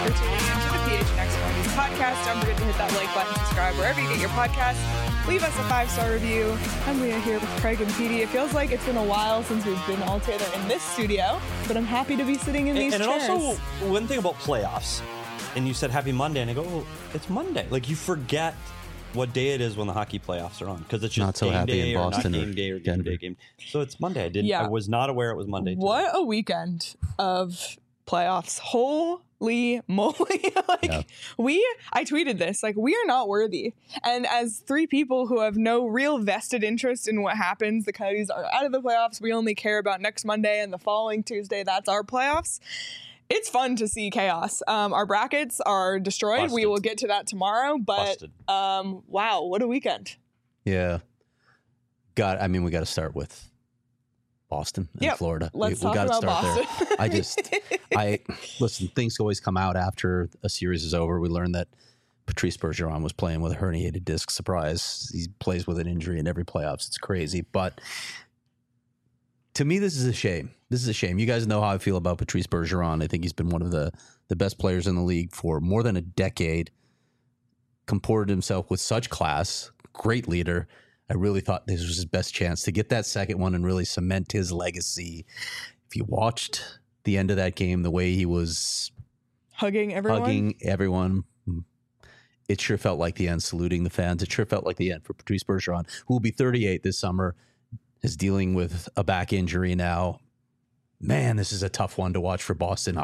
for tuning in to the PHNX Mornings podcast. Don't forget to hit that like button, subscribe wherever you get your podcasts. Leave us a 5-star review. I'm Leah here with Craig and Petey. It feels like it's been a while since we've been all together in this studio, but I'm happy to be sitting in these chairs. And also, one thing about playoffs, and you said happy Monday, and I go, oh, it's Monday. Like, you forget what day it is when the hockey playoffs are on, because it's just not so game happy day in Boston or not game day or game day game. So it's Monday. I was not aware it was Monday today. What a weekend of playoffs. Holy moly. I tweeted this, we are not worthy. And as three people who have no real vested interest in what happens, the Coyotes are out of the playoffs. We only care about next Monday and the following Tuesday. That's our playoffs. It's fun to see chaos. Our brackets are destroyed. Busted. We will get to that tomorrow, but wow, what a weekend. Yeah. We got to start with Boston and Florida. Let's we talk got to about start Boston. there. Listen, things always come out after a series is over. We learned that Patrice Bergeron was playing with a herniated disc. Surprise. He plays with an injury in every playoffs. It's crazy. But to me, this is a shame. You guys know how I feel about Patrice Bergeron. I think he's been one of the best players in the league for more than a decade. Comported himself with such class. Great leader. I really thought this was his best chance to get that second one and really cement his legacy. If you watched the end of that game, the way he was hugging everyone, it sure felt like the end, saluting the fans. It sure felt like the end for Patrice Bergeron, who will be 38 this summer, is dealing with a back injury now. Man, this is a tough one to watch for Boston.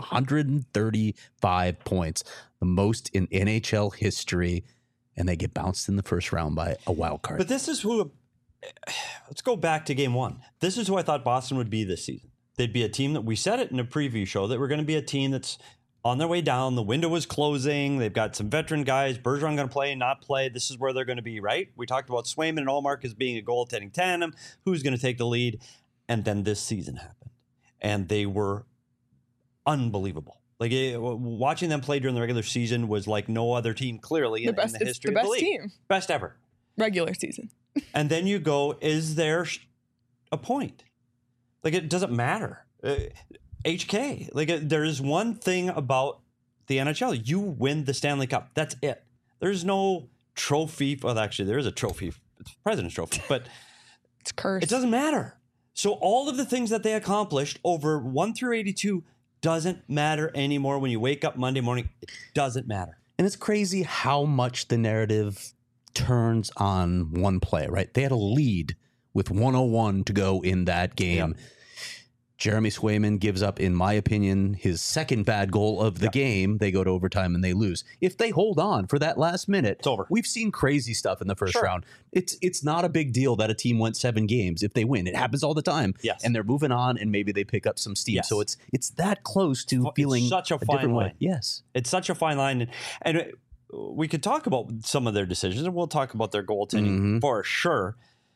135 points, the most in NHL history. And they get bounced in the first round by a wild card. But this is who, let's go back to game one. This is who I thought Boston would be this season. They'd be a team that we said it in a preview show that we're going to be a team that's on their way down. The window is closing. They've got some veteran guys. Bergeron going to play, not play. This is where they're going to be, right? We talked about Swayman and Ullmark as being a goaltending tandem. Who's going to take the lead? And then this season happened. And they were unbelievable. Watching them play during the regular season was like no other team, clearly, in the history of the league. Team. Best ever. Regular season. And then you go, is there a point? It doesn't matter. HK. There is one thing about the NHL. You win the Stanley Cup. That's it. There's no trophy. Well, actually, there is a trophy. It's President's Trophy. But it's cursed. It doesn't matter. So all of the things that they accomplished over 1 through 82 doesn't matter anymore. When you wake up Monday morning, it doesn't matter. And it's crazy how much the narrative turns on one play, right? They had a lead with 101 to go in that game. Yeah. Jeremy Swayman gives up, in my opinion, his second bad goal of the game. They go to overtime and they lose. If they hold on for that last minute, it's over. We've seen crazy stuff in the first round. It's not a big deal that a team went 7 games if they win. It happens all the time. Yes. And they're moving on and maybe they pick up some steam. Yes. So it's that close to feeling such a fine different line. Way. Yes. It's such a fine line. And we could talk about some of their decisions, and we'll talk about their goaltending for sure.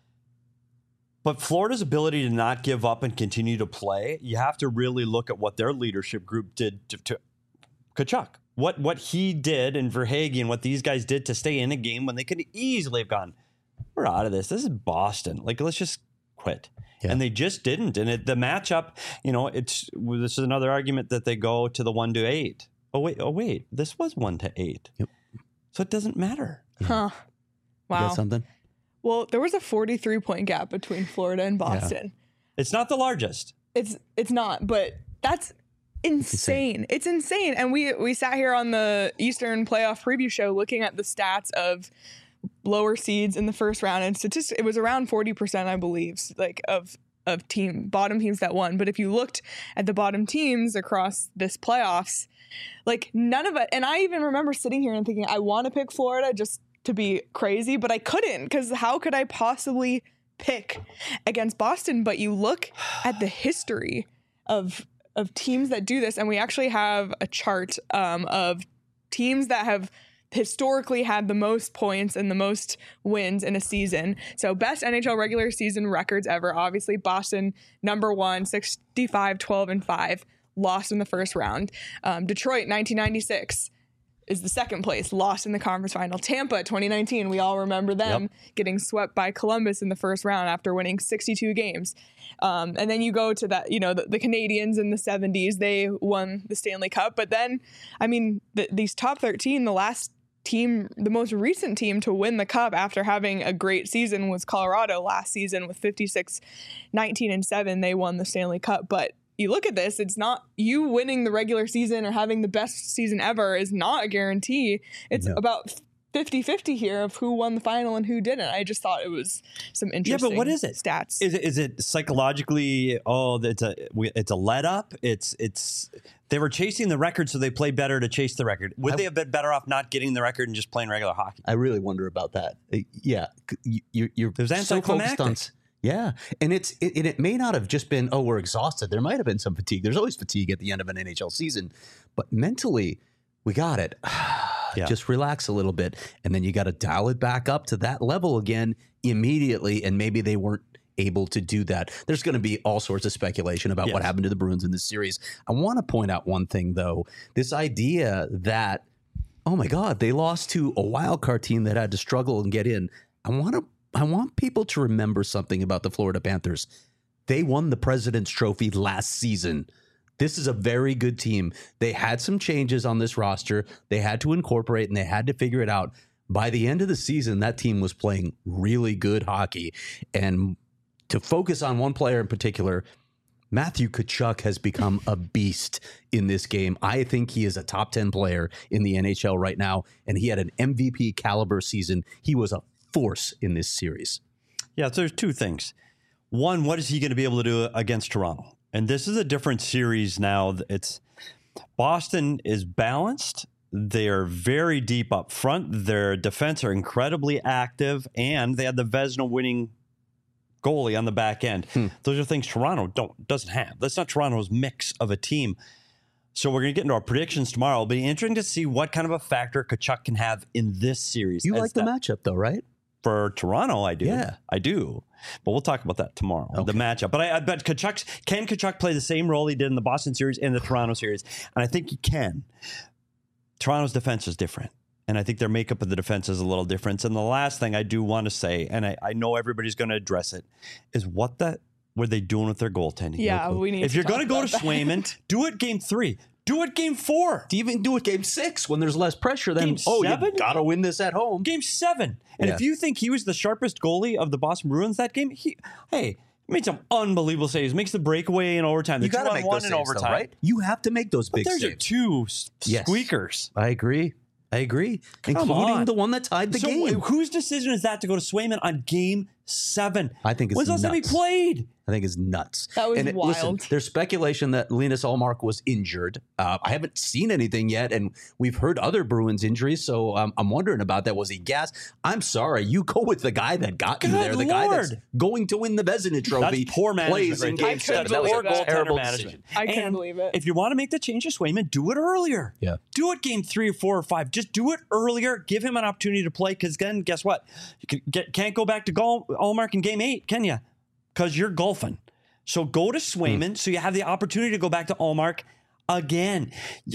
But Florida's ability to not give up and continue to play, you have to really look at what their leadership group did to Tkachuk. What he did and Verhaeghe and what these guys did to stay in a game when they could easily have gone, we're out of this. This is Boston. Let's just quit. Yeah. And they just didn't. And the matchup, this is another argument that they go to the 1-8. Oh wait, this was 1-8. Yep. So it doesn't matter. Yeah. Huh. Wow. You got something? Well, there was a 43-point gap between Florida and Boston. Yeah. It's not the largest. It's not, but that's insane. It's insane. And we sat here on the Eastern playoff preview show looking at the stats of lower seeds in the first round, and it was around 40%, I believe, of bottom teams that won. But if you looked at the bottom teams across this playoffs, none of it. And I even remember sitting here and thinking, I want to pick Florida just to be crazy, but I couldn't, because how could I possibly pick against Boston? But you look at the history of teams that do this, and we actually have a chart of teams that have historically had the most points and the most wins in a season. So best NHL regular season records ever. Obviously, Boston, number 1, 65, 12, and 5, lost in the first round. Detroit, 1996. is the second place, lost in the conference final. Tampa 2019, we all remember them getting swept by Columbus in the first round after winning 62 games. And then you go to that, the Canadians in the 70s, they won the Stanley Cup. But then, I mean, these top 13, the most recent team to win the cup after having a great season was Colorado last season with 56, 19 and 7. They won the Stanley Cup. But you look at this, it's not you winning the regular season or having the best season ever is not a guarantee. It's about 50-50 here of who won the final and who didn't. I just thought it was some interesting but what is it? Stats. Is it psychologically, it's a let up? It's they were chasing the record, so they played better to chase the record. Would they have been better off not getting the record and just playing regular hockey? I really wonder about that. Yeah. You're so focused on... Yeah. And it may not have just been, we're exhausted. There might have been some fatigue. There's always fatigue at the end of an NHL season. But mentally, we got it. Just relax a little bit. And then you got to dial it back up to that level again immediately. And maybe they weren't able to do that. There's going to be all sorts of speculation about what happened to the Bruins in this series. I want to point out one thing, though. This idea that, oh, my God, they lost to a wild card team that had to struggle and get in. I want people to remember something about the Florida Panthers. They won the President's Trophy last season. This is a very good team. They had some changes on this roster. They had to incorporate and they had to figure it out. By the end of the season, that team was playing really good hockey. And to focus on one player in particular, Matthew Tkachuk has become a beast in this game. I think he is a top 10 player in the NHL right now, and he had an MVP caliber season. He was a force in this series. Yeah, so there's two things. One, what is he going to be able to do against Toronto? And this is a different series now. It's Boston is balanced. They're very deep up front. Their defense are incredibly active, and they had the Vezina winning goalie on the back end. Those are things Toronto doesn't have. That's not Toronto's mix of a team. So we're going to get into our predictions tomorrow. It'll be interesting to see what kind of a factor Tkachuk can have in this series. You like the matchup, though, right? For Toronto, I do. Yeah. I do. But we'll talk about that tomorrow, the matchup. But I bet can Tkachuk play the same role he did in the Boston series and the Toronto series? And I think he can. Toronto's defense is different. And I think their makeup of the defense is a little different. And the last thing I do want to say, and I know everybody's going to address it, is what were they doing with their goaltending? Yeah, we need. If you're going to go to Swayman, do it game 3. Do it game 4. To even do it game 6 when there's less pressure, then you got to win this at home. Game 7. And if you think he was the sharpest goalie of the Boston Bruins that game, he made some unbelievable saves. Makes the breakaway in overtime. You got to make those saves, overtime. Though, right? You have to make those big saves. There's two squeakers. I agree. Including the one that tied the game. Whose decision is that to go to Swayman on game 7? I think it's nuts. When's the last time he played? I think it's nuts. That was wild. Listen, there's speculation that Linus Ullmark was injured. I haven't seen anything yet, and we've heard other Bruins injuries, so I'm wondering about that. Was he gassed? I'm sorry. You go with the guy that got you there, the guy that's going to win the Vezina Trophy. That's poor management. In game 7. That was a terrible decision. I couldn't believe it. If you want to make the change to Swayman, do it earlier. Yeah. Do it game 3 or 4 or 5. Just do it earlier. Give him an opportunity to play, because then guess what? You can't go back to Ullmark in game 8, can you? Because you're golfing. So go to Swayman so you have the opportunity to go back to Ullmark again.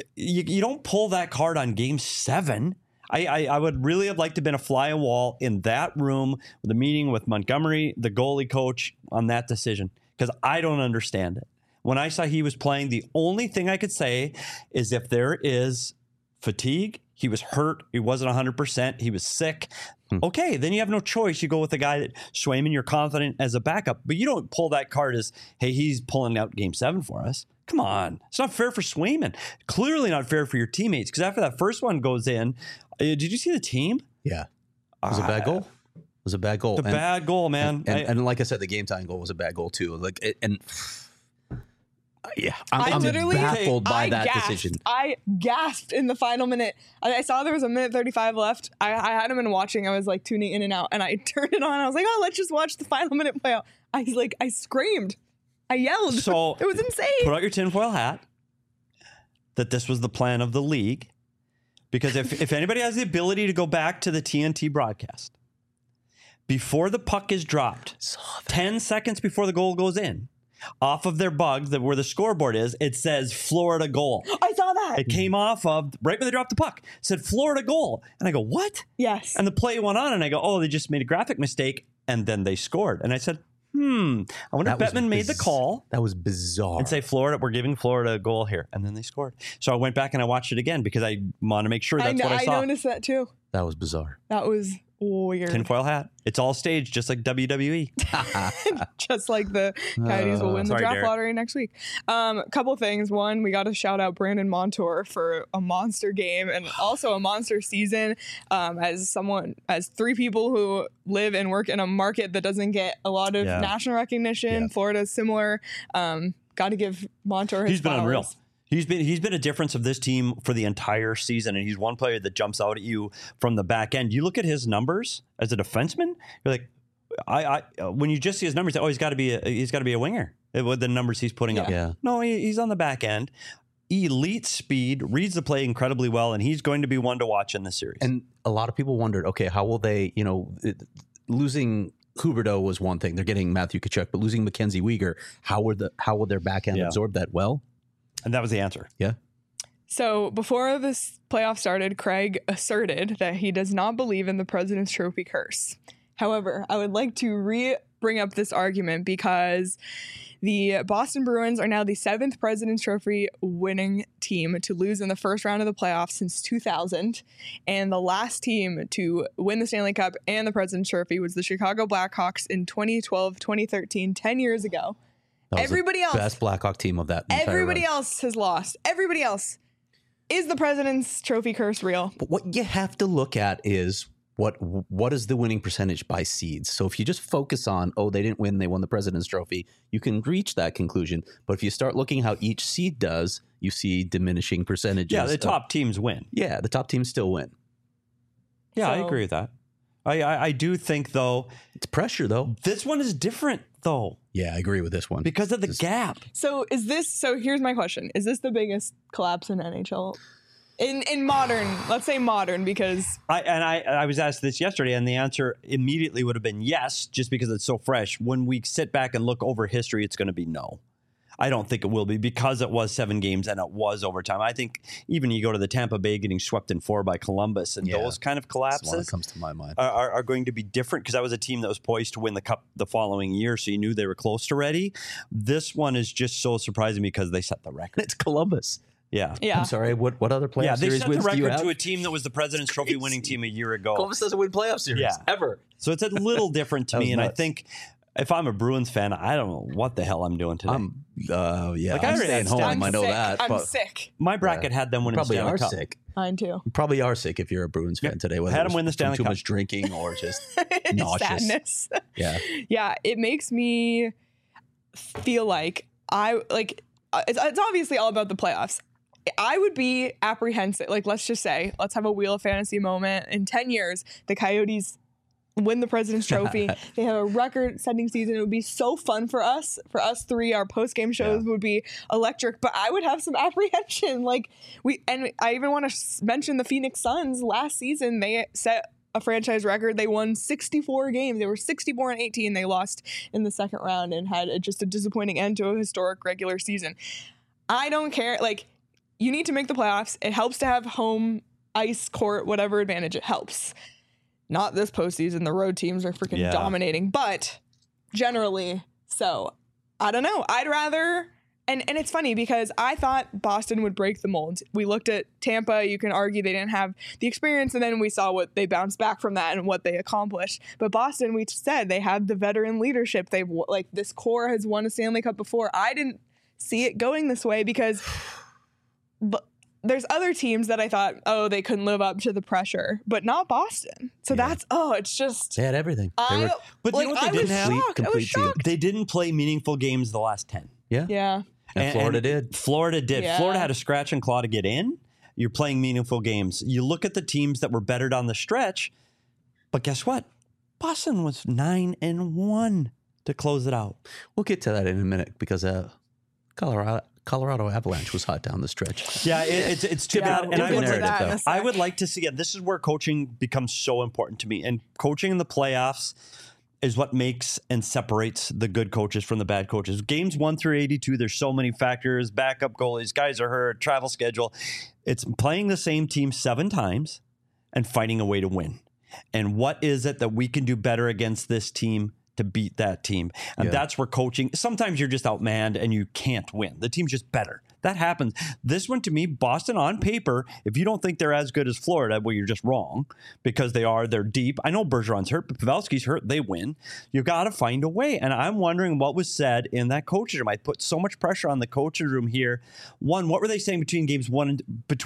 You don't pull that card on game 7. I would really have liked to have been a fly on wall in that room with a meeting with Montgomery, the goalie coach, on that decision, because I don't understand it. When I saw he was playing, the only thing I could say is if there is fatigue, he was hurt, he wasn't 100%, he was sick. Okay, then you have no choice. You go with the guy that Swayman, you're confident as a backup, but you don't pull that card as, hey, he's pulling out game 7 for us. Come on. It's not fair for Swayman. Clearly not fair for your teammates, because after that first one goes in, did you see the team? Yeah. It was a bad goal. It was a bad goal. The bad goal, man. And like I said, the game time goal was a bad goal too. I'm literally baffled by that decision. I gasped in the final minute. I saw there was a minute 35 left. I hadn't been watching. I was like tuning in and out, and I turned it on. I was like, let's just watch the final minute play out. I screamed. I yelled. So it was insane. Put out your tinfoil hat that this was the plan of the league. Because if anybody has the ability to go back to the TNT broadcast, before the puck is dropped, 10 seconds before the goal goes in, off of their bug, where the scoreboard is, it says Florida goal. I saw that. It came off of right when they dropped the puck. It said Florida goal. And I go, what? Yes. And the play went on, and I go, oh, they just made a graphic mistake, and then they scored. And I said, I wonder if Bettman made the call. That was bizarre. And say, Florida, we're giving Florida a goal here. And then they scored. So I went back and I watched it again because I want to make sure that's what I saw. I noticed that too. That was bizarre. That was weird. Tinfoil hat. It's all staged, just like WWE. Just like the Coyotes will win the draft lottery next week. Couple things. One, we got to shout out Brandon Montour for a monster game and also a monster season. As three people who live and work in a market that doesn't get a lot of national recognition, Florida's similar. Got to give Montour his flowers. Been unreal. He's been a difference of this team for the entire season, and he's one player that jumps out at you from the back end. You look at his numbers as a defenseman, you're like, when you just see his numbers, he's got to be a winger with the numbers he's putting up. Yeah. No, he's on the back end. Elite speed, reads the play incredibly well, and he's going to be one to watch in this series. And a lot of people wondered, okay, how will they? Losing Huberdeau was one thing. They're getting Matthew Tkachuk, but losing Mackenzie Weegar, how will their back end absorb that? Well. And that was the answer. Yeah. So before this playoff started, Craig asserted that he does not believe in the President's Trophy curse. However, I would like to bring up this argument because the Boston Bruins are now the 7th President's Trophy winning team to lose in the first round of the playoffs since 2000. And the last team to win the Stanley Cup and the President's Trophy was the Chicago Blackhawks in 2012, 2013, 10 years ago. Everybody else, best Blackhawk team of that. Everybody else has lost. Everybody else. Is the President's Trophy curse real? But what you have to look at is what is the winning percentage by seeds. So if you just focus on, they didn't win, they won the President's Trophy, you can reach that conclusion. But if you start looking how each seed does, you see diminishing percentages. Yeah, the top teams win. Yeah, the top teams still win. Yeah, I agree with that. I do think, though, it's pressure, though. This one is different, though. Yeah, I agree with this one. Because of the gap. So here's my question. Is this the biggest collapse in NHL? In modern, let's say modern, because... I was asked this yesterday, and the answer immediately would have been yes, just because it's so fresh. When we sit back and look over history, it's going to be no. I don't think it will be because it was 7 games and it was overtime. I think even you go to the Tampa Bay getting swept in 4 by Columbus, and those kind of collapses that's the one that comes to my mind. Are going to be different because that was a team that was poised to win the Cup the following year, so you knew they were close to ready. This one is just so surprising because they set the record. It's Columbus. Yeah. I'm sorry. What other playoff series wins do you have? They set the record to a team that was the President's Trophy winning team a year ago. Columbus doesn't win playoff series ever. So it's a little different to me, and I think if I'm a Bruins fan, I don't know what the hell I'm doing today. I'm staying home. I know that. I'm sick. My bracket had them winning the Stanley Cup. Probably are sick. Mine too. You probably are sick if you're a Bruins fan today. Whether had them win the Stanley Cup. Too Cup. much drinking or just nauseous. Sadness. Yeah. Yeah. It makes me feel like it's obviously all about the playoffs. I would be apprehensive. Like, let's just say, let's have a Wheel of Fantasy moment. In 10 years, the Coyotes win the President's Trophy. They have a record-setting season. It would be so fun for us. For us three, our post-game shows would be electric. But I would have some apprehension. I even want to mention the Phoenix Suns. Last season, they set a franchise record. They won 64 games. They were 64-18. They lost in the second round and had just a disappointing end to a historic regular season. I don't care. You need to make the playoffs. It helps to have home ice court, whatever advantage it helps. Not this postseason. The road teams are freaking dominating, but generally, so I don't know. I'd rather, and it's funny because I thought Boston would break the mold. We looked at Tampa. You can argue they didn't have the experience, and then we saw what they bounced back from that and what they accomplished. But Boston, we said they have the veteran leadership. They've this core has won a Stanley Cup before. I didn't see it going this way because. But there's other teams that I thought, they couldn't live up to the pressure, but not Boston. So it's just... They had everything. But you know what they didn't have? I was shocked. They didn't play meaningful games the last 10. Yeah. Yeah. And Florida did. Florida did. Yeah. Florida had a scratch and claw to get in. You're playing meaningful games. You look at the teams that were better down the stretch, but guess what? Boston was 9-1 to close it out. We'll get to that in a minute because Colorado Avalanche was hot down the stretch. Yeah, it's too bad. And I would like to see it. This is where coaching becomes so important to me. And coaching in the playoffs, is what makes and separates the good coaches from the bad coaches. Games 1 through 82, there's so many factors, backup goalies, guys are hurt, travel schedule. It's playing the same team 7 times and finding a way to win. And what is it that we can do better against this team to beat that team? And that's where coaching, sometimes you're just outmanned and you can't win. The team's just better. That happens. This one, to me, Boston on paper, if you don't think they're as good as Florida, well, you're just wrong because they're deep. I know Bergeron's hurt, but Pavelski's hurt. They win. You got to find a way. And I'm wondering what was said in that coaching room. I put so much pressure on the coaching room here. One, what were they saying between games 1 and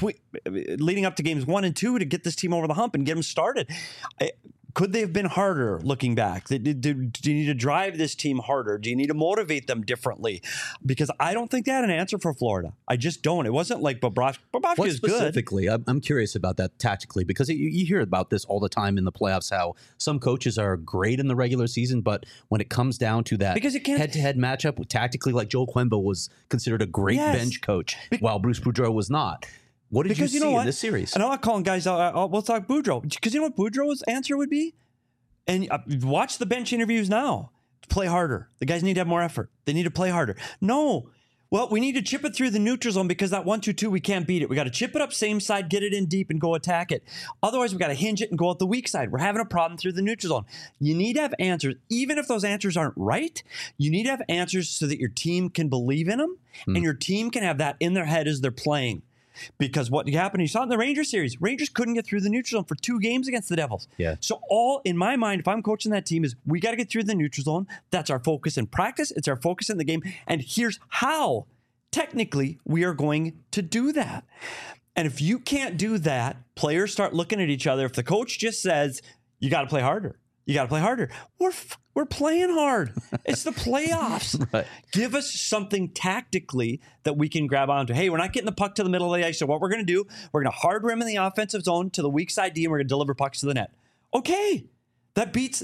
leading up to games 1 and 2 to get this team over the hump and get them started? Could they have been harder looking back? Do you need to drive this team harder? Do you need to motivate them differently? Because I don't think they had an answer for Florida. I just don't. It wasn't like Bobrovsky is good. Specifically, I'm curious about that tactically because you hear about this all the time in the playoffs, how some coaches are great in the regular season, but when it comes down to that head-to-head matchup, tactically, like Joel Quenneville was considered a great bench coach, while Bruce Boudreau was not. What did you see in this series? And I'm not calling guys out. We'll talk Boudreau. Because you know what Boudreau's answer would be? And watch the bench interviews now. Play harder. The guys need to have more effort. They need to play harder. No. Well, we need to chip it through the neutral zone because that 1-2-2, we can't beat it. We got to chip it up same side, get it in deep, and go attack it. Otherwise, we got to hinge it and go out the weak side. We're having a problem through the neutral zone. You need to have answers. Even if those answers aren't right, you need to have answers so that your team can believe in them and your team can have that in their head as they're playing. Because what happened, you saw in the Rangers series, Rangers couldn't get through the neutral zone for 2 games against the Devils. Yeah. So all in my mind, if I'm coaching that team, is we got to get through the neutral zone. That's our focus in practice. It's our focus in the game. And here's how technically we are going to do that. And if you can't do that, players start looking at each other. If the coach just says, you got to play harder. You got to play harder. We're playing hard. It's the playoffs. Right. Give us something tactically that we can grab onto. Hey, we're not getting the puck to the middle of the ice. So what we're going to do, we're going to hard rim in the offensive zone to the weak side D, and we're going to deliver pucks to the net. Okay. That beats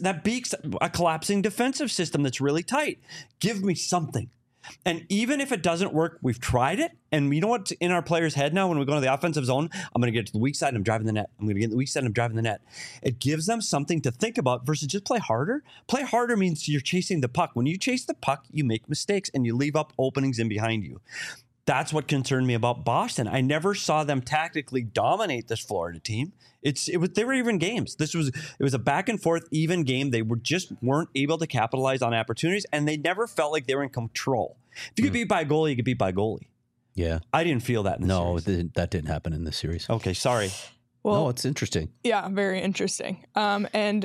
a collapsing defensive system that's really tight. Give me something. And even if it doesn't work, we've tried it. And you know what's in our player's head now when we go to the offensive zone? I'm going to get to the weak side and I'm driving the net. I'm going to get to the weak side and I'm driving the net. It gives them something to think about versus just play harder. Play harder means you're chasing the puck. When you chase the puck, you make mistakes and you leave up openings in behind you. That's what concerned me about Boston. I never saw them tactically dominate this Florida team. They were even games. It was a back and forth even game. They weren't able to capitalize on opportunities, and they never felt like they were in control. If you could beat by a goalie, you could beat by a goalie. Yeah, I didn't feel that in the series. No, that didn't happen in this series. Okay, sorry. Well, no, it's interesting. Yeah, very interesting. And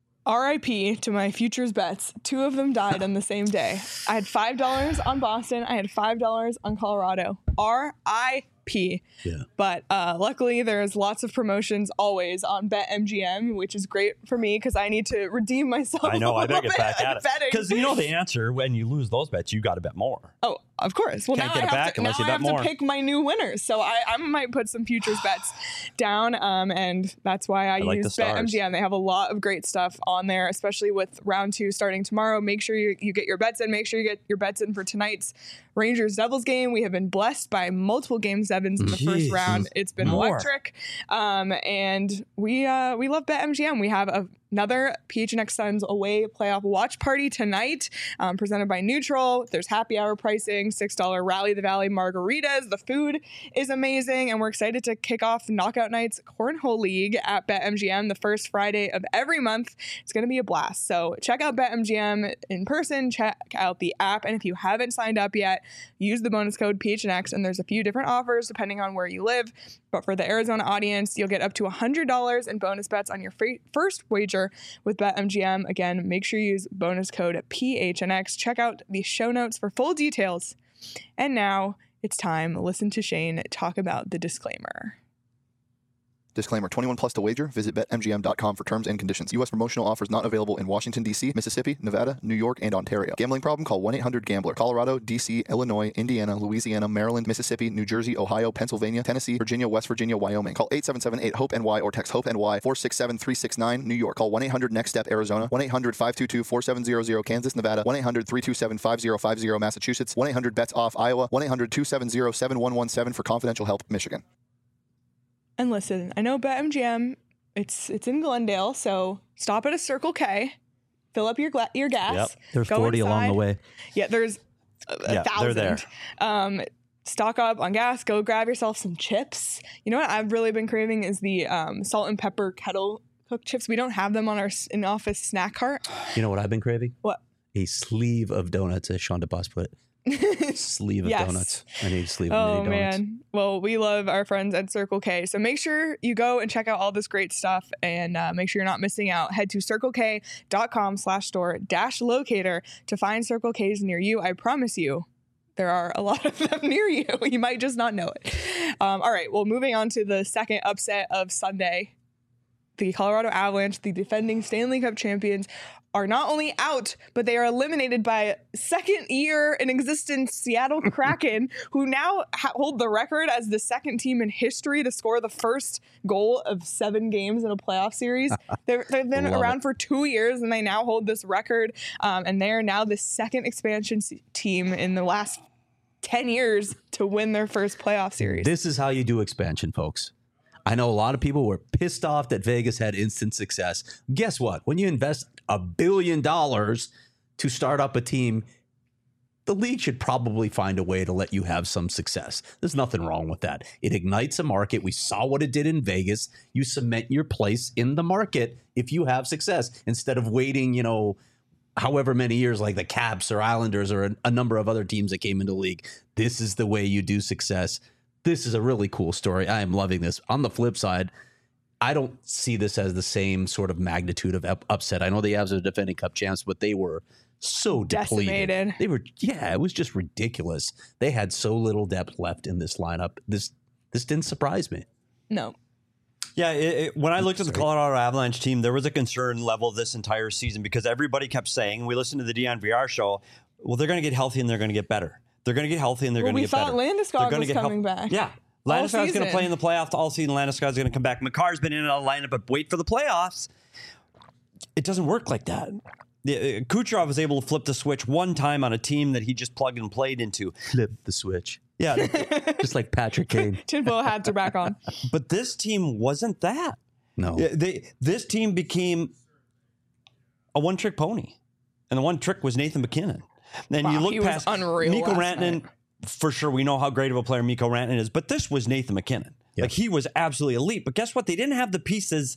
RIP to my futures bets. 2 of them died on the same day. I had $5 on Boston. I had $5 on Colorado. RIP. Yeah. But luckily, there's lots of promotions always on BetMGM, which is great for me because I need to redeem myself. I know. I better get back at it. Because you know the answer. When you lose those bets, you got to bet more. Oh, of course. Well, Can't now get I it have, back to, unless now you I bet have more. to pick my new winners. So I might put some futures bets down. And that's why I like use the stars. BetMGM. They have a lot of great stuff on there, especially with round 2 starting tomorrow. Make sure you get your bets in. Make sure you get your bets in for tonight's Rangers-Devils game. We have been blessed by multiple Game 7s in the first round. It's been electric. And we love BetMGM. We have another PHNX Suns away playoff watch party tonight, presented by Neutral. There's happy hour pricing, $6 Rally the Valley margaritas. The food is amazing, and we're excited to kick off Knockout Nights Cornhole League at BetMGM the first Friday of every month. It's going to be a blast. So check out BetMGM in person, check out the app, and if you haven't signed up yet, use the bonus code PHNX, and there's a few different offers depending on where you live. But for the Arizona audience, you'll get up to $100 in bonus bets on your first wager with BetMGM. Again, make sure you use bonus code PHNX. Check out the show notes for full details. And now it's time to listen to Shane talk about the disclaimer. Disclaimer, 21 plus to wager. Visit BetMGM.com for terms and conditions. U.S. promotional offers not available in Washington, D.C., Mississippi, Nevada, New York, and Ontario. Gambling problem? Call 1-800-GAMBLER. Colorado, D.C., Illinois, Indiana, Louisiana, Maryland, Mississippi, New Jersey, Ohio, Pennsylvania, Tennessee, Virginia, West Virginia, Wyoming. Call 877-8-HOPE-NY or text HOPE-NY 467-369. New York. Call 1-800-NEXT-STEP, Arizona. 1-800-522-4700, Kansas, Nevada. 1-800-327-5050, Massachusetts. 1-800-BETS-OFF, Iowa. 1-800-270-7117 for confidential help, Michigan. And listen, I know BetMGM, it's in Glendale, so stop at a Circle K. fill up your gas. Yep. There's go 40 along the inside. way. Yeah, there's a they're there. 1,000. Stock up on gas. Go grab yourself some chips. You know what I've really been craving is the salt and pepper kettle cooked chips. We don't have them on our in-office snack cart. You know what I've been craving? What? A sleeve of donuts, as Sean DeBoss put it. Sleeve of Yes. donuts. I need a sleeve Oh of mini donuts. man. Well, we love our friends at Circle K. So make sure you go and check out all this great stuff and make sure you're not missing out. Head to circlek.com/store-locator to find Circle K's near you. I promise you, there are a lot of them near you. You might just not know it. All right. Well, moving on to the second upset of Sunday. The Colorado Avalanche, the defending Stanley Cup champions, are not only out, but they are eliminated by second year in existence Seattle Kraken, who now hold the record as the second team in history to score the first goal of 7 games in a playoff series. They've been around for 2 years, and they now hold this record. And they are now the second expansion team in the last 10 years to win their first playoff series. This is how you do expansion, folks. I know a lot of people were pissed off that Vegas had instant success. Guess what? When you invest $1 billion to start up a team, the league should probably find a way to let you have some success. There's nothing wrong with that. It ignites a market. We saw what it did in Vegas. You cement your place in the market if you have success instead of waiting, however many years like the Caps or Islanders or a number of other teams that came into the league. This is the way you do success. This is a really cool story. I am loving this. On the flip side, I don't see this as the same sort of magnitude of upset. I know the Avs are defending Cup champs, but they were so depleted. Decimated. They were, it was just ridiculous. They had so little depth left in this lineup. This didn't surprise me. No. Yeah, when I looked at the Colorado Avalanche team, there was a concern level this entire season because everybody kept saying, we listened to the Dion VR show, well, they're going to get healthy and they're going to get better. They're going to get healthy and they're going to get better. We thought Landeskog was coming back. Yeah. Landeskog's going to play in the playoffs all season. Landeskog's going to come back. Makar's been in and out of the lineup, but wait for the playoffs. It doesn't work like that. Kucherov was able to flip the switch one time on a team that he just plugged and played into. Flip the switch. Yeah. Just like Patrick Kane. Tinfoil hats are back on. But this team wasn't that. No. This team became a one-trick pony. And the one trick was Nathan MacKinnon. Then Wow, you look he was past unreal Mikko last Rantanen. night. For sure, we know how great of a player Mikko Rantanen is, but this was Nathan MacKinnon. Yeah. Like, he was absolutely elite. But guess what? They didn't have the pieces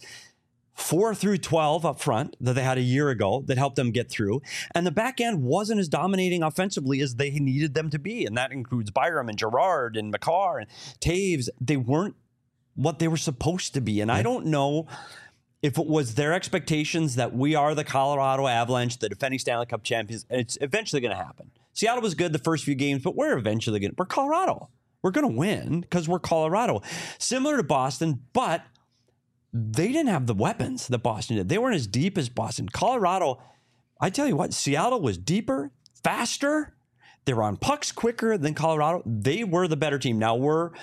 4 through 12 up front that they had a year ago that helped them get through. And the back end wasn't as dominating offensively as they needed them to be. And that includes Byram and Gerard and Makar and Taves. They weren't what they were supposed to be. And I don't know if it was their expectations that we are the Colorado Avalanche, the defending Stanley Cup champions, and it's eventually going to happen. Seattle was good the first few games, but we're Colorado. We're going to win because we're Colorado. Similar to Boston, but they didn't have the weapons that Boston did. They weren't as deep as Boston. Colorado, I tell you what, Seattle was deeper, faster. They were on pucks quicker than Colorado. They were the better team. Now we're,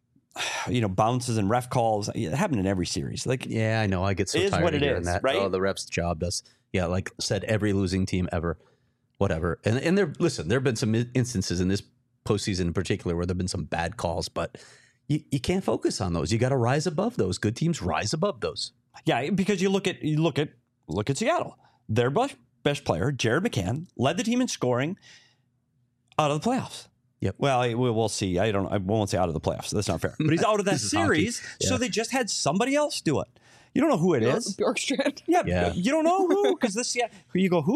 bounces and ref calls. It happened in every series. Yeah, I know. I get so tired what of it hearing is, that. right? Oh, the ref's job does. Yeah, like said, every losing team ever. Whatever. And there have been some instances in this postseason in particular where there have been some bad calls, but you can't focus on those. You got to rise above those. Good teams rise above those. Yeah, because you look at Seattle. Their best player, Jared McCann, led the team in scoring out of the playoffs. Yep. Well, we'll see. I won't say out of the playoffs. That's not fair. But he's out of that This is series, hockey. Yeah. so they just had somebody else do it. You don't know who it is. Bjorkstrand. Yeah, you don't know who because you go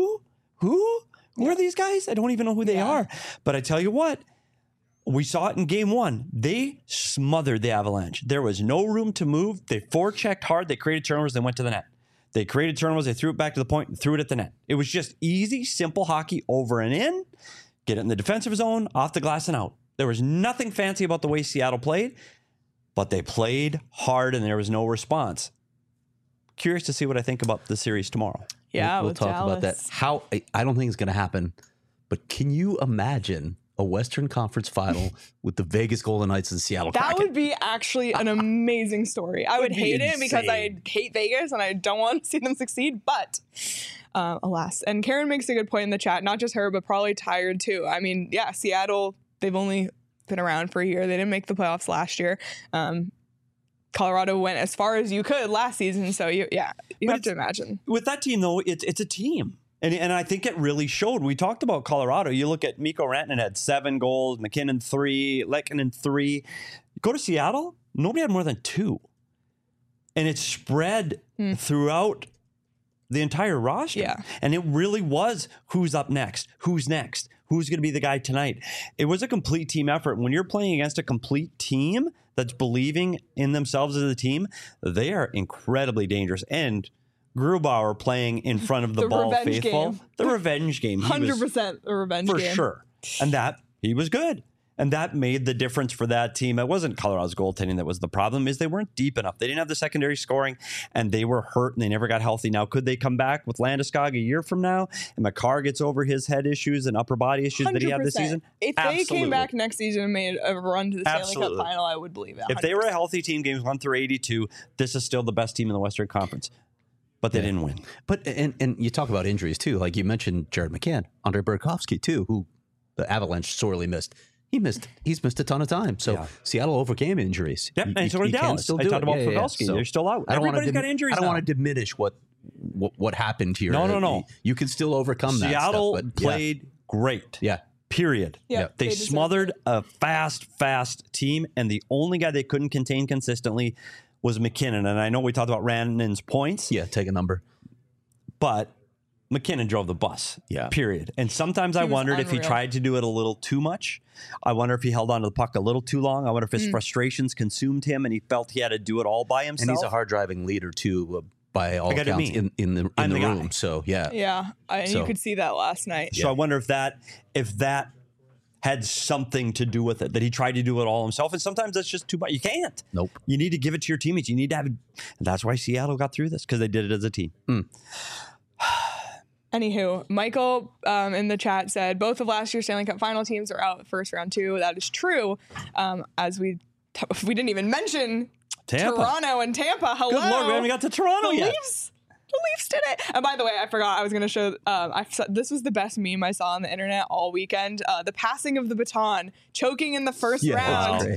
who are these guys? I don't even know who they are. But I tell you what, we saw it in game 1. They smothered the Avalanche. There was no room to move. They forechecked hard. They created turnovers. They went to the net. They created turnovers. They threw it back to the point and threw it at the net. It was just easy, simple hockey over and in. Get it in the defensive zone, off the glass and out. There was nothing fancy about the way Seattle played, but they played hard and there was no response. Curious to see what I think about the series tomorrow. Yeah, we'll talk about that. How I don't think it's going to happen, but can you imagine a Western Conference final with the Vegas Golden Knights and Seattle That Kraken? would be actually an amazing story. I would hate it because I hate Vegas and I don't want to see them succeed, but alas. And Karen makes a good point in the chat. Not just her, but probably tired too. I mean, yeah, Seattle, they've only been around for a year. They didn't make the playoffs last year. Colorado went as far as you could last season. So you have to imagine. With that team, though, it's a team. And I think it really showed. We talked about Colorado. You look at Mikko Rantanen had 7 goals, McKinnon 3, Lehkonen 3. Go to Seattle, nobody had more than 2. And it spread throughout the entire roster. Yeah. And it really was who's up next, who's next, who's going to be the guy tonight. It was a complete team effort. When you're playing against a complete team that's believing in themselves as a team, they are incredibly dangerous. And Grubauer playing in front of the ball faithful. Game. The revenge game. 100% the revenge game. For sure. And that, he was good. And that made the difference for that team. It wasn't Colorado's goaltending that was the problem, is they weren't deep enough. They didn't have the secondary scoring, and they were hurt, and they never got healthy. Now, could they come back with Landeskog a year from now, and Makar gets over his head issues and upper body issues 100%. That he had this season? If they came back next season and made a run to the Stanley Cup final, I would believe it. 100%. If they were a healthy team, games 1 through 82, this is still the best team in the Western Conference. But they didn't win. But and you talk about injuries too. Like you mentioned, Jared McCann, Andre Burakovsky too, who the Avalanche sorely missed. He's missed a ton of time. So Seattle overcame injuries. Yep, and so did Dallas. I talked about Pavelski. So they're still out. Everybody's got injuries. I don't want to diminish what happened here. No. You can still overcome that. Seattle stuff, played great. Yeah. Period. Yeah, they smothered a fast team, and the only guy they couldn't contain consistently was McKinnon. And I know we talked about Rantanen's points. Yeah, take a number. But McKinnon drove the bus. Yeah. Period. And sometimes I wondered if he tried to do it a little too much. I wonder if he held on to the puck a little too long. I wonder if his frustrations consumed him and he felt he had to do it all by himself. And he's a hard-driving leader, too, by all accounts in the room. So, yeah. Yeah, you could see that last night. So I wonder if that had something to do with it, that he tried to do it all himself. And sometimes that's just too much. You can't. Nope. You need to give it to your teammates. You need to have it. And that's why Seattle got through this, because they did it as a team. Anywho, Michael in the chat said both of last year's Stanley Cup final teams are out first round 2. That is true. As we didn't even mention Tampa. Toronto and Tampa. Hello. Good Lord, we haven't got to Toronto yet. The Leafs did it. And by the way, I forgot I was going to show, this was the best meme I saw on the internet all weekend. The passing of the baton, choking in the first round.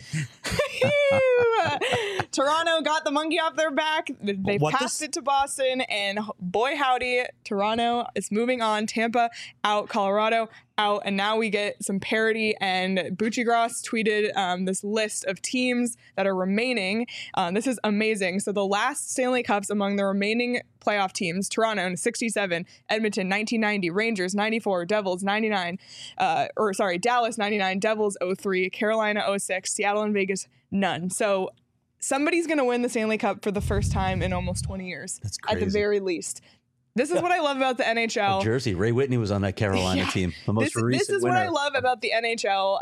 Toronto got the monkey off their back. They passed it to Boston, and boy howdy, Toronto is moving on. Tampa out, Colorado out, and now we get some parity. And Buccigross tweeted this list of teams that are remaining. This is amazing. So the last Stanley Cups among the remaining playoff teams: Toronto in 67, Edmonton 1990, Rangers 94, Devils 99, Dallas 99, Devils 03, Carolina 06, Seattle and Vegas none. So somebody's going to win the Stanley Cup for the first time in almost 20 years. That's crazy. At the very least. This is what I love about the NHL. Jersey. Ray Whitney was on that Carolina team. The most recent This is winner. what I love about the NHL.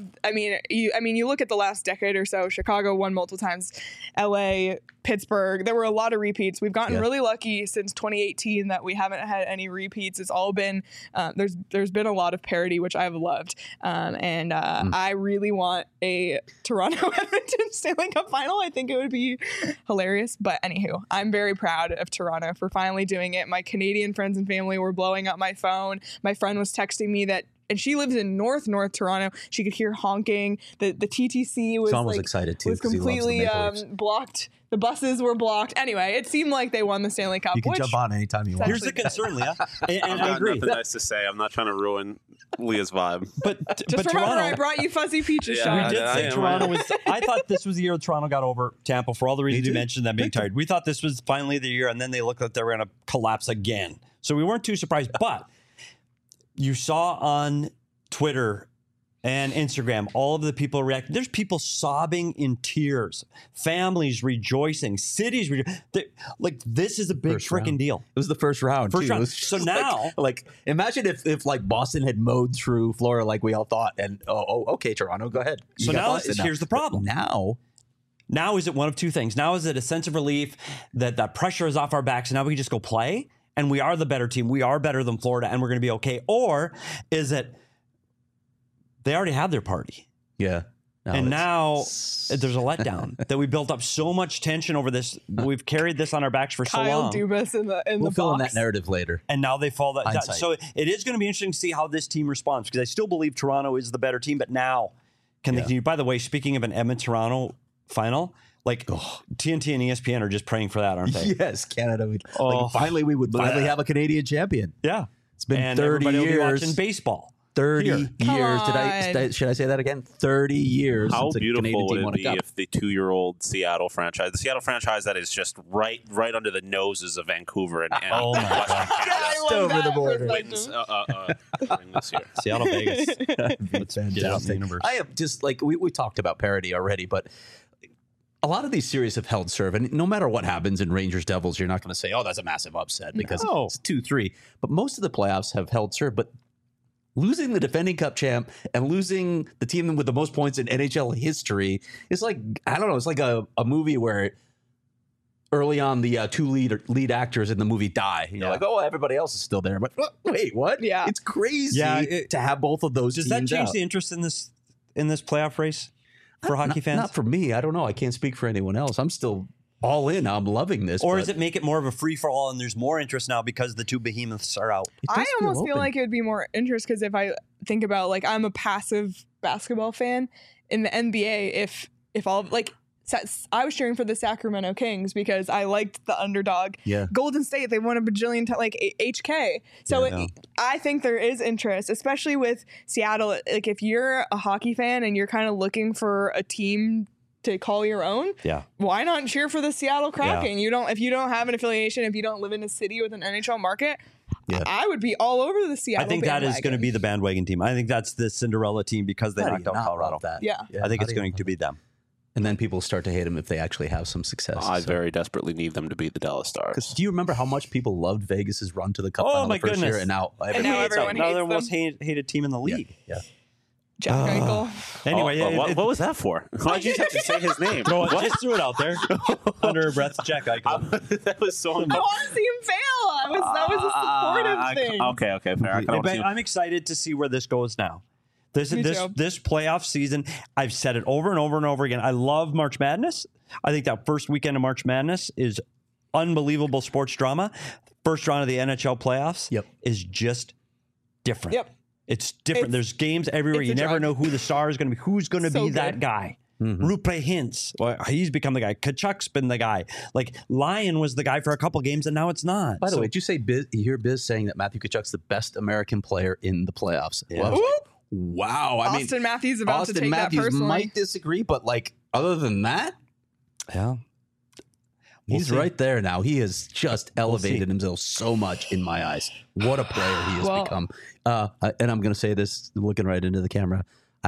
You look at the last decade or so. Chicago won multiple times. LA, Pittsburgh. There were a lot of repeats. We've gotten really lucky since 2018 that we haven't had any repeats. It's all been there's been a lot of parity, which I've loved. I really want a Toronto Edmonton Stanley Cup final. I think it would be hilarious. But anywho, I'm very proud of Toronto for finally doing it. My Canadian friends and family were blowing up my phone. My friend was texting me that, and she lives in North Toronto. She could hear honking. The TTC was Sean was excited too. Was completely blocked. The buses were blocked. Anyway, it seemed like they won the Stanley Cup. You can jump on anytime you want. Here's the concern, Leah. And I agree. Nothing nice to say. I'm not trying to ruin Leah's vibe. Just remember, Toronto, I brought you fuzzy peaches, Sean. We did say Toronto was. I thought this was the year Toronto got over Tampa for all the reasons you mentioned, them being tired. We thought this was finally the year, and then they looked like they were going to collapse again. So we weren't too surprised. But you saw on Twitter and Instagram all of the people reacting. There's people sobbing in tears, families rejoicing, cities rejoicing. Like, this is a big freaking deal. It was the first round. First round. So now, like imagine if like Boston had mowed through Florida like we all thought, and okay, Toronto, go ahead. So now here's the problem. Now is it one of two things? Now is it a sense of relief that that pressure is off our backs, and now we can just go play, and we are the better team, we are better than Florida, and we're going to be okay? Or is it they already had their party? Yeah. Now there's a letdown that we built up so much tension over this. We've carried this on our backs for so long. Kyle Dubas in the we'll fill in box. that narrative later. And now they fall that down. So it is going to be interesting to see how this team responds, because I still believe Toronto is the better team, but now can they continue? By the way, speaking of an Edmonton-Toronto final, like TNT and ESPN are just praying for that, aren't they? Yes, Canada. Finally we would have a Canadian champion. Yeah. It's been and 30 everybody will be years. watching baseball. 30 Here. years. Come Should I say that again? 30 years. How since a Canadian beautiful team would won it a be cup. if the 2-year-old Seattle franchise, the Seattle franchise that is just right under the noses of Vancouver and Oh my Western God. Canada, I love over the that border. wins during this year. Seattle, Vegas. Let's get out in the Fantastic. universe. I have just like we talked about parity already, but a lot of these series have held serve, and no matter what happens in Rangers Devils, you're not going to say, "Oh, that's a massive upset," because No. it's 2-3. But most of the playoffs have held serve. But losing the defending Cup champ and losing the team with the most points in NHL history is like, I don't know, it's like a movie where early on the two lead actors in the movie die. You're like, oh, everybody else is still there, but wait, what? Yeah. It's crazy Yeah, to have both of those. Does that teams change out. the interest in this playoff race for hockey fans? Not for me. I don't know. I can't speak for anyone else. I'm still all in. I'm loving this. Or but does it make it more of a free for all and there's more interest now because the two behemoths are out? it does I almost feel open. like it would be more interest because if I think about like I'm a passive basketball fan in the NBA. If all like I was cheering for the Sacramento Kings because I liked the underdog. Yeah. Golden State, they won a bajillion times, like HK. So Yeah, I think there is interest, especially with Seattle. Like if you're a hockey fan and you're kind of looking for a team to call your own, Yeah. why not cheer for the Seattle Kraken? If you don't have an affiliation, if you don't live in a city with an NHL market, Yeah. I would be all over the Seattle. I think that is going to be the bandwagon team. I think that's the Cinderella team because they How do knocked you out not Colorado. love that? Yeah. I think how it's do you going love to be it? them. And then people start to hate them if they actually have some success. I So- very desperately need them to beat the Dallas 'Cause Stars. do you remember how much people loved Vegas's run to the Cup Oh, final my the first year, goodness. and now now everybody hates everyone them. Now hates they're the most them. hated team in the league. Yeah. Jack Eichel. Anyway, what was that for? Why'd you have to say his name? just threw it out there under her breath. Jack Eichel. That was so I want to see him fail. That was a supportive thing. Okay, fair. I kinda wanna see him- I'm excited to see where this goes now. This Me too. playoff season, I've said it over and over and over again. I love March Madness. I think that first weekend of March Madness is unbelievable sports drama. First round of the NHL playoffs Yep. is just different. Yep. It's different. It's- There's games everywhere. it's You a never drug. know who the star is going to be. Who's going to So be that good. guy? Mm-hmm. Rupe Hintz. Well, he's become the guy. Kachuk's been the guy. Like Lyon was the guy for a couple games, and now it's not. By the So- way, did you say you hear Biz saying that Matthew Tkachuk's the best American player in the playoffs? Yeah. Well, I was like, Whoop. wow. I mean, Austin Matthews about Austin to take Matthews that personally. might disagree, but like other than that, yeah, We'll he's see. right there now. He has just elevated see. himself so much in my eyes. What a player he has Well- become. And I'm going to say this, looking right into the camera.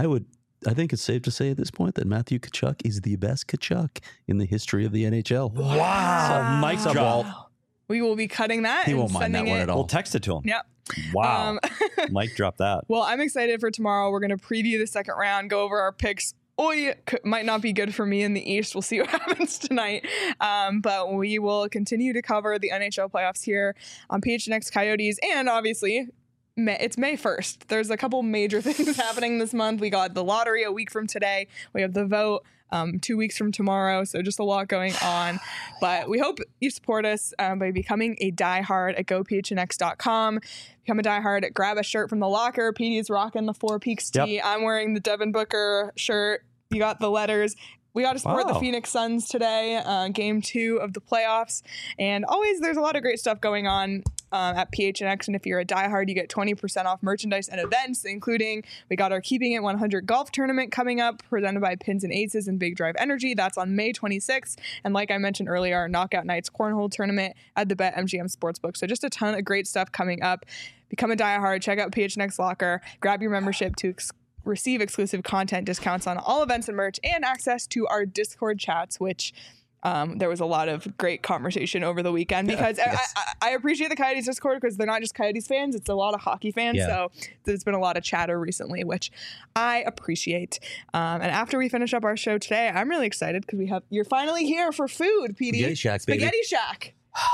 I think it's safe to say at this point that Matthew Tkachuk is the best Tkachuk in the history of the NHL. Wow, Mike What's up, drop. Walt? We will be cutting that. He and won't mind that sending one it. at all. We'll text it to him. Yep. Wow, Mike dropped that. Well, I'm excited for tomorrow. We're going to preview the second round, go over our picks. Might not be good for me in the East. We'll see what happens tonight. But we will continue to cover the NHL playoffs here on PHNX Coyotes. And obviously, it's May 1st. There's a couple major things happening this month. We got the lottery a week from today. We have the vote 2 weeks from tomorrow. So just a lot going on. But we hope you support us by becoming a diehard at gophnx.com. Become a diehard. Grab a shirt from the locker. Petey's rocking the Four Peaks tee. I'm wearing the Devin Booker shirt. You got the letters. We got to support the Wow. Phoenix Suns today, game 2 of the playoffs. And always, there's a lot of great stuff going on at PHNX. And if you're a diehard, you get 20% off merchandise and events, including we got our Keeping It 100 golf tournament coming up, presented by Pins and Aces and Big Drive Energy. That's on May 26th. And like I mentioned earlier, our Knockout Nights Cornhole tournament at the BetMGM Sportsbook. So just a ton of great stuff coming up. Become a diehard. Check out PHNX Locker. Grab your membership to receive exclusive content discounts on all events and merch, and access to our Discord chats, which there was a lot of great conversation over the weekend because I appreciate the Coyotes Discord because they're not just Coyotes fans, it's a lot of hockey fans. Yeah. So there's been a lot of chatter recently, which I appreciate. And after we finish up our show today, I'm really excited because you're finally here for food, PD. Spaghetti Shack, baby. Spaghetti Shack.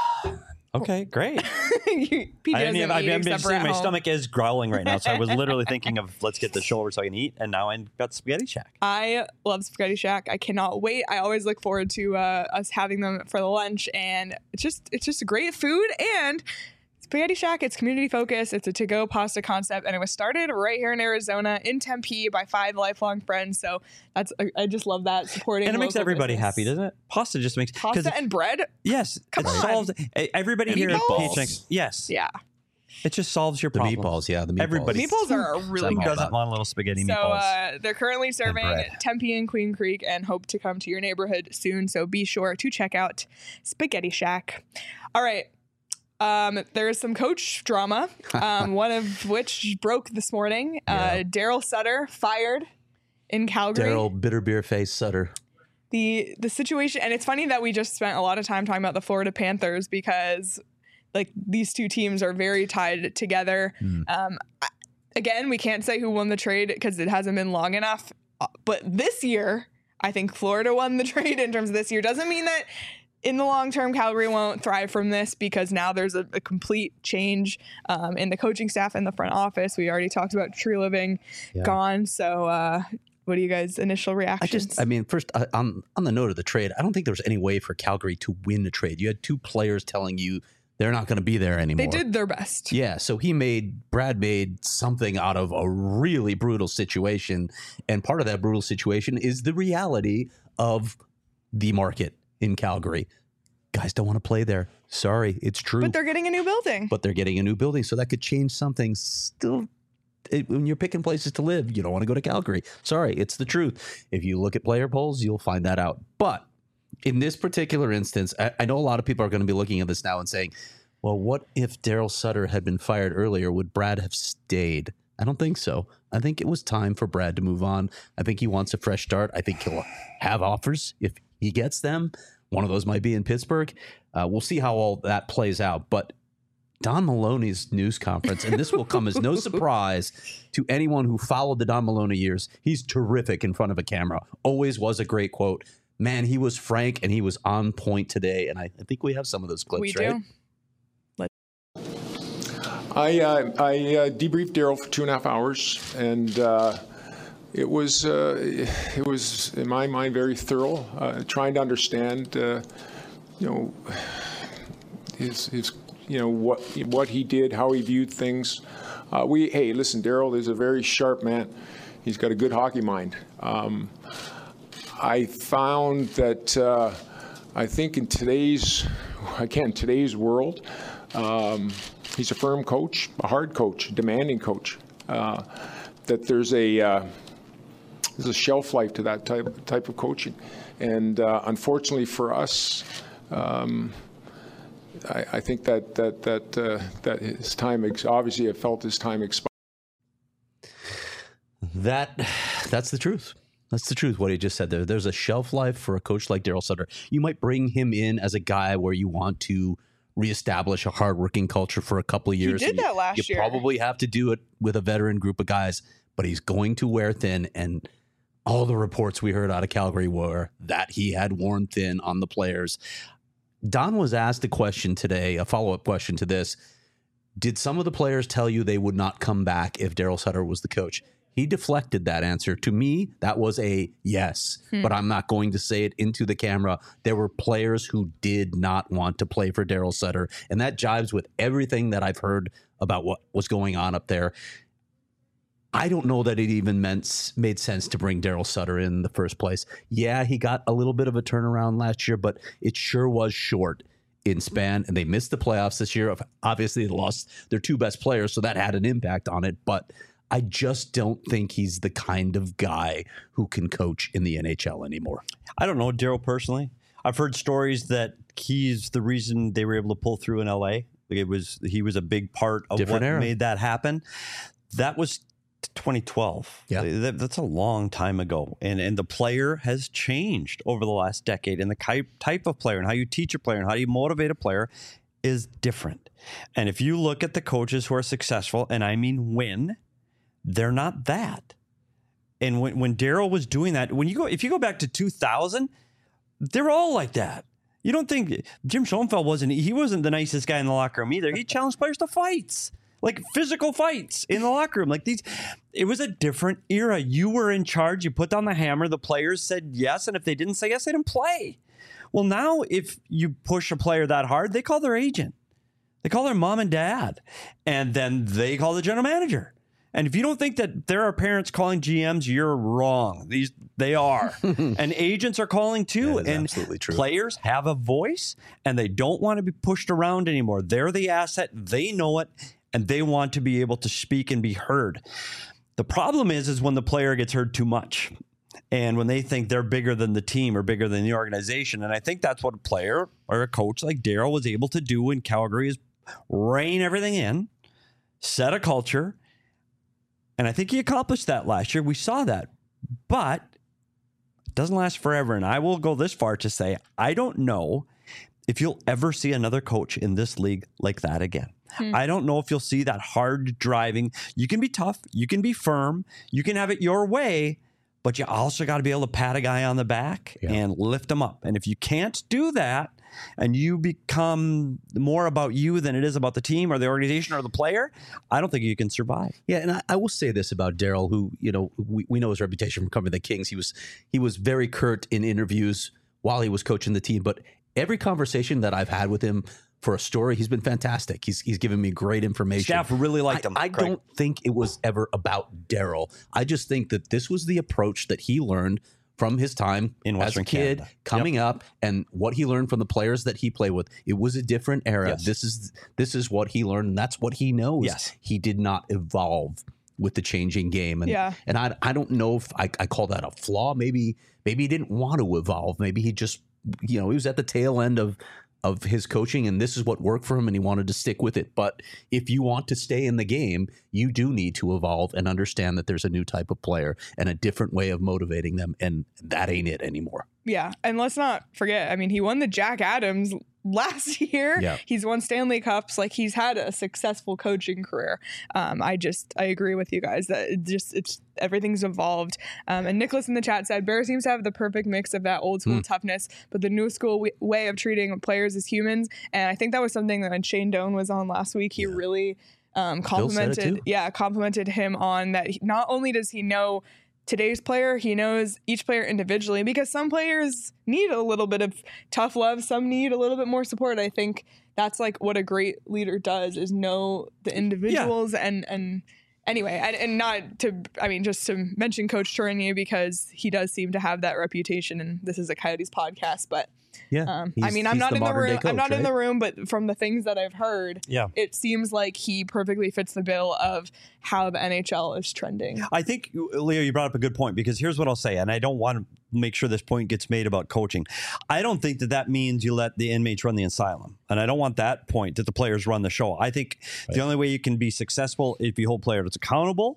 Okay, great. PD I doesn't didn't even, eat I'm except just for saying at my home. stomach is growling right now. So I was literally thinking of let's get the show over so I can eat. And now I got Spaghetti Shack. I love Spaghetti Shack. I cannot wait. I always look forward to us having them for the lunch, and it's just great food. And Spaghetti Shack, it's community focused. It's a to-go pasta concept, and it was started right here in Arizona in Tempe by 5 lifelong friends. So I just love that, supporting. And it makes local everybody business. happy, doesn't it? Pasta just makes Pasta and bread. yes, Come it on. solves everybody And here at meatballs. PHNX. Yes, Yeah. It just solves your The problems. meatballs, yeah, the meatballs. Everybody- Meatballs are really Who good. doesn't want a little spaghetti So meatballs? they're currently serving bread. Tempe and Queen Creek and hope to come to your neighborhood soon. So be sure to check out Spaghetti Shack. All right. There's some coach drama, one of which broke this morning. Daryl Sutter fired in Calgary. Daryl Bitter Beer Face Sutter. The situation, and it's funny that we just spent a lot of time talking about the Florida Panthers because like these two teams are very tied together. Again, we can't say who won the trade because it hasn't been long enough. But this year, I think Florida won the trade in terms of this year. Doesn't mean that in the long term, Calgary won't thrive from this because now there's a complete change in the coaching staff and the front office. We already talked about Tree Living gone. So what are you guys' initial reactions? I mean, first, on the note of the trade, I don't think there was any way for Calgary to win the trade. You had two players telling you they're not going to be there anymore. They did their best. Yeah, so Brad made something out of a really brutal situation. And part of that brutal situation is the reality of the market in Calgary. Guys don't want to play there. Sorry, it's true. But they're getting a new building. So that could change something. Still, when you're picking places to live, you don't want to go to Calgary. Sorry, it's the truth. If you look at player polls, you'll find that out. But in this particular instance, I know a lot of people are going to be looking at this now and saying, well, what if Daryl Sutter had been fired earlier? Would Brad have stayed? I don't think so. I think it was time for Brad to move on. I think he wants a fresh start. I think he'll have offers if he gets them. One of those might be in Pittsburgh. We'll see how all that plays out. But Don Maloney's news conference, and this will come as no surprise to anyone who followed the Don Maloney years. He's terrific in front of a camera. Always was a great quote. Man, he was frank and he was on point today. And I think we have some of those clips, We right? do. I debriefed Daryl for 2.5 hours, and it was in my mind very thorough, trying to understand, his what he did, how he viewed things. Hey, listen, Daryl is a very sharp man. He's got a good hockey mind. I found that I think in today's world. He's a firm coach, a hard coach, a demanding coach. That there's a shelf life to that type of coaching, and unfortunately for us, I think that his time obviously have felt his time expired. That's the truth. That's the truth. What he just said there. There's a shelf life for a coach like Daryl Sutter. You might bring him in as a guy where you want to reestablish a hardworking culture for a couple of years. He did that last year. You probably have to do it with a veteran group of guys, but he's going to wear thin. And all the reports we heard out of Calgary were that he had worn thin on the players. Don was asked a question today, a follow-up question to this. Did some of the players tell you they would not come back if Daryl Sutter was the coach? He deflected that answer. To me, that was a yes, but I'm not going to say it into the camera. There were players who did not want to play for Daryl Sutter, and that jives with everything that I've heard about what was going on up there. I don't know that it even made sense to bring Daryl Sutter in the first place. Yeah, he got a little bit of a turnaround last year, but it sure was short in span, and they missed the playoffs this year. Obviously, they lost their two best players, so that had an impact on it, but I just don't think he's the kind of guy who can coach in the NHL anymore. I don't know Daryl personally. I've heard stories that he's the reason they were able to pull through in LA. He was a big part of Different what era. made that happen. That was 2012. Yeah. That's a long time ago. And the player has changed over the last decade. And the type of player and how you teach a player and how you motivate a player is different. And if you look at the coaches who are successful, and I mean win, they're not that. And when Daryl was doing that, if you go back to 2000, they're all like that. You don't think Jim Schoenfeld wasn't the nicest guy in the locker room either. He challenged players to fights, like physical fights in the locker room. It was a different era. You were in charge. You put down the hammer. The players said yes. And if they didn't say yes, they didn't play. Well, now if you push a player that hard, they call their agent. They call their mom and dad. And then they call the general manager. And if you don't think that there are parents calling GMs, you're wrong. They are. And agents are calling too. That is and absolutely true. Players have a voice and they don't want to be pushed around anymore. They're the asset. They know it. and they want to be able to speak and be heard. The problem is when the player gets heard too much and when they think they're bigger than the team or bigger than the organization. And I think that's what a player or a coach like Daryl was able to do in Calgary, is rein everything in, set a culture. And I think he accomplished that last year. We saw that. But it doesn't last forever. And I will go this far to say, I don't know if you'll ever see another coach in this league like that again. I don't know if you'll see that hard driving. You can be tough. You can be firm. You can have it your way. But you also got to be able to pat a guy on the back and lift him up. And if you can't do that and you become more about you than it is about the team or the organization or the player, I don't think you can survive. Yeah, and I will say this about Daryl, who, we know his reputation from covering the Kings. He was very curt in interviews while he was coaching the team. But every conversation that I've had with him for a story, he's been fantastic. He's given me great information. Staff really liked him. I don't think it was ever about Daryl. I just think that this was the approach that he learned from his time in Western as a kid, Canada, coming up, and what he learned from the players that he played with. It was a different era. Yes. This is what he learned, and that's what he knows. Yes. He did not evolve with the changing game. And I don't know if I call that a flaw. Maybe he didn't want to evolve. Maybe he just, he was at the tail end of his coaching, and this is what worked for him, and he wanted to stick with it. But if you want to stay in the game, you do need to evolve and understand that there's a new type of player and a different way of motivating them, and that ain't it anymore. Yeah, and let's not forget, I mean, he won the Jack Adams last year. Yeah. He's won Stanley Cups. Like, he's had a successful coaching career. I agree with you guys that it's everything's evolved. And Nicholas in the chat said, Bear seems to have the perfect mix of that old school toughness, but the new school way of treating players as humans. And I think that was something that when Shane Doan was on last week, he really complimented him on that. Not only does he know today's player, he knows each player individually, because some players need a little bit of tough love, some need a little bit more support. I think that's like what a great leader does, is know the individuals. And anyway, and not to, I mean, just to mention Coach Tourigny, because he does seem to have that reputation, and this is a Coyotes podcast, but I mean, I'm not in the room. I'm not in the room, but from the things that I've heard, it seems like he perfectly fits the bill of how the NHL is trending. I think, Leo, you brought up a good point, because here's what I'll say, and I don't want to make sure this point gets made about coaching. I don't think that means you let the inmates run the asylum, and I don't want that point that the players run the show. I think the only way you can be successful if you hold players accountable.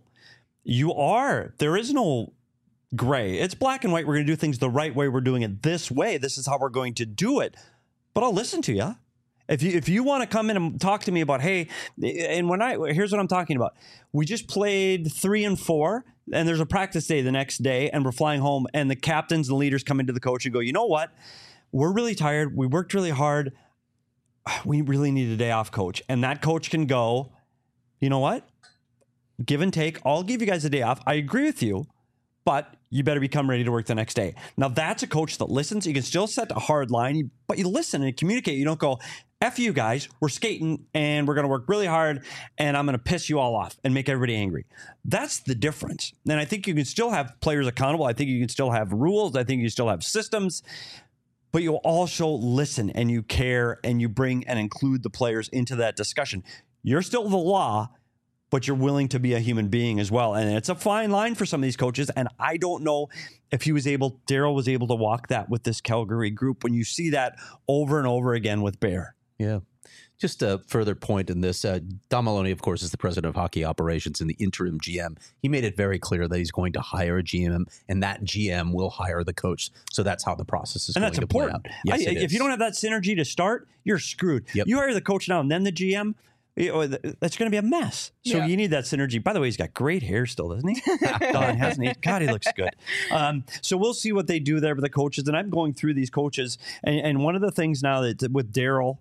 There is no gray. It's black and white. We're going to do things the right way. We're doing it this way. This is how we're going to do it. But I'll listen to you. If you want to come in and talk to me about, hey, and here's what I'm talking about. We just played 3 and 4, and there's a practice day the next day, and we're flying home, and the captains and leaders come into the coach and go, you know what? We're really tired. We worked really hard. We really need a day off, coach. And that coach can go, you know what? Give and take. I'll give you guys a day off. I agree with you, but you better become ready to work the next day. Now, that's a coach that listens. You can still set a hard line, but you listen and communicate. You don't go, F you guys, we're skating and we're going to work really hard and I'm going to piss you all off and make everybody angry. That's the difference. And I think you can still have players accountable. I think you can still have rules. I think you still have systems, but you also listen and you care and you bring and include the players into that discussion. You're still the law, but you're willing to be a human being as well. And it's a fine line for some of these coaches. And I don't know if Daryl was able to walk that with this Calgary group when you see that over and over again with Bear. Yeah. Just a further point in this, Don Maloney, of course, is the president of hockey operations and the interim GM. He made it very clear that he's going to hire a GM, and that GM will hire the coach. So that's how the process is going to play out. Yes, if you don't have that synergy to start, you're screwed. Yep. You hire the coach now and then the GM, that's going to be a mess. So you need that synergy. By the way, he's got great hair still, doesn't he? Don, hasn't he? God, he looks good. So we'll see what they do there with the coaches. And I'm going through these coaches. And one of the things now that with Daryl,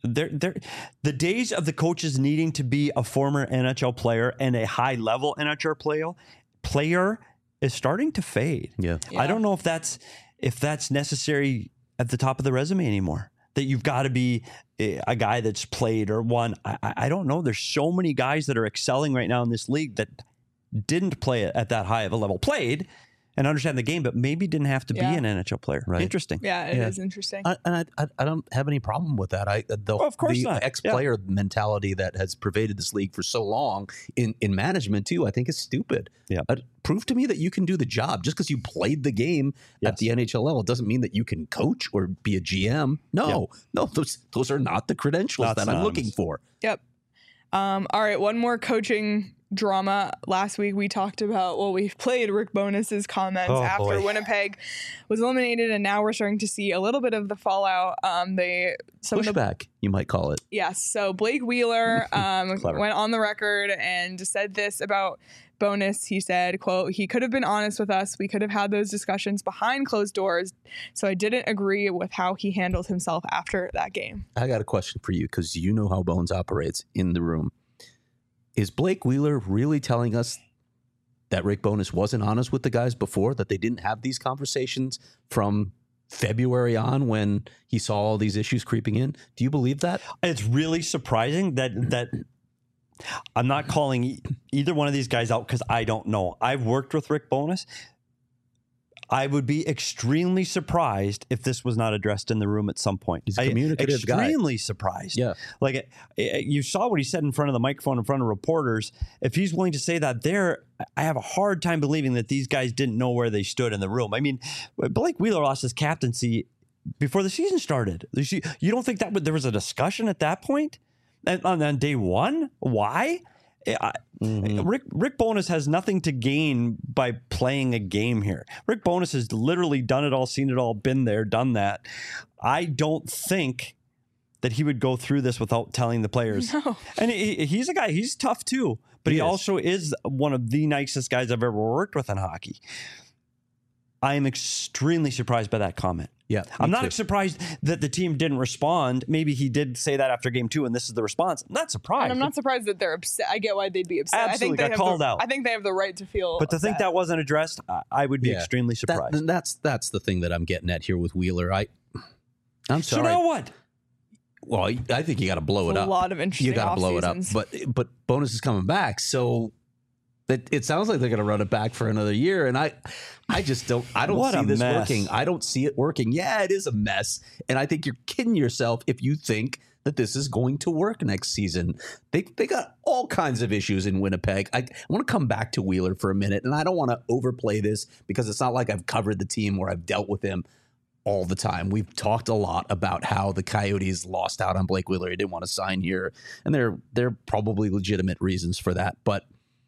the days of the coaches needing to be a former NHL player and a high-level NHL player is starting to fade. Yeah. I don't know if that's necessary at the top of the resume anymore. That you've got to be a guy that's played or won. I don't know. There's so many guys that are excelling right now in this league that didn't play at that high of a level. Played and understand the game, but maybe didn't have to be Yeah. an NHL player. Right. Interesting. Yeah, it is interesting. I don't have any problem with that. Of course the not. ex-player mentality that has pervaded this league for so long in management too, I think is stupid. Yeah. Prove to me that you can do the job. Just because you played the game at the NHL level doesn't mean that you can coach or be a GM. No, those are not the credentials Not that I'm looking for. Yep. All right, one more coaching drama. Last week we talked about, we played Rick Bowness's comments after boy. Winnipeg was eliminated, and now we're starting to see a little bit of the fallout. Pushback, you might call it. Yes. So Blake Wheeler went on the record and said this about Bowness. He said, quote, "He could have been honest with us. We could have had those discussions behind closed doors. So I didn't agree with how he handled himself after that game." I got a question for you because you know how Bones operates in the room. Is Blake Wheeler really telling us that Rick Bowness wasn't honest with the guys before, that they didn't have these conversations from February on when he saw all these issues creeping in? Do you believe that? It's really surprising that I'm not calling either one of these guys out because I don't know. I've worked with Rick Bowness. I would be extremely surprised if this was not addressed in the room at some point. He's a communicative guy. Extremely surprised. Yeah. Like you saw what he said in front of the microphone, in front of reporters. If he's willing to say that there, I have a hard time believing that these guys didn't know where they stood in the room. I mean, Blake Wheeler lost his captaincy before the season started. You don't think that there was a discussion at that point? On day one? Why? Rick Bowness has nothing to gain by playing a game here. Rick Bowness has literally done it all, seen it all, been there, done that. I don't think that he would go through this without telling the players. No. And he's a guy, he's tough too, but he also is one of the nicest guys I've ever worked with in hockey. I am extremely surprised by that comment. Yeah, I'm not surprised that the team didn't respond. Maybe he did say that after game 2 and this is the response. I'm not surprised. And I'm not surprised that they're upset. I get why they'd be upset. Absolutely, I think got called out. I think they have the right to feel But to upset. think that wasn't addressed, I would be extremely surprised. That's the thing that I'm getting at here with Wheeler. I'm sorry. So now what? Well, I think you got to blow it a up. lot of interesting You got to blow it up. off-seasons. But Bowness is coming back, so it sounds like they're going to run it back for another year. And I just don't. I don't What see a this mess. working. I don't see it working. Yeah, it is a mess, and I think you're kidding yourself if you think that this is going to work next season. They got all kinds of issues in Winnipeg. I want to come back to Wheeler for a minute, and I don't want to overplay this because it's not like I've covered the team or I've dealt with him all the time. We've talked a lot about how the Coyotes lost out on Blake Wheeler. He didn't want to sign here, and there are probably legitimate reasons for that, but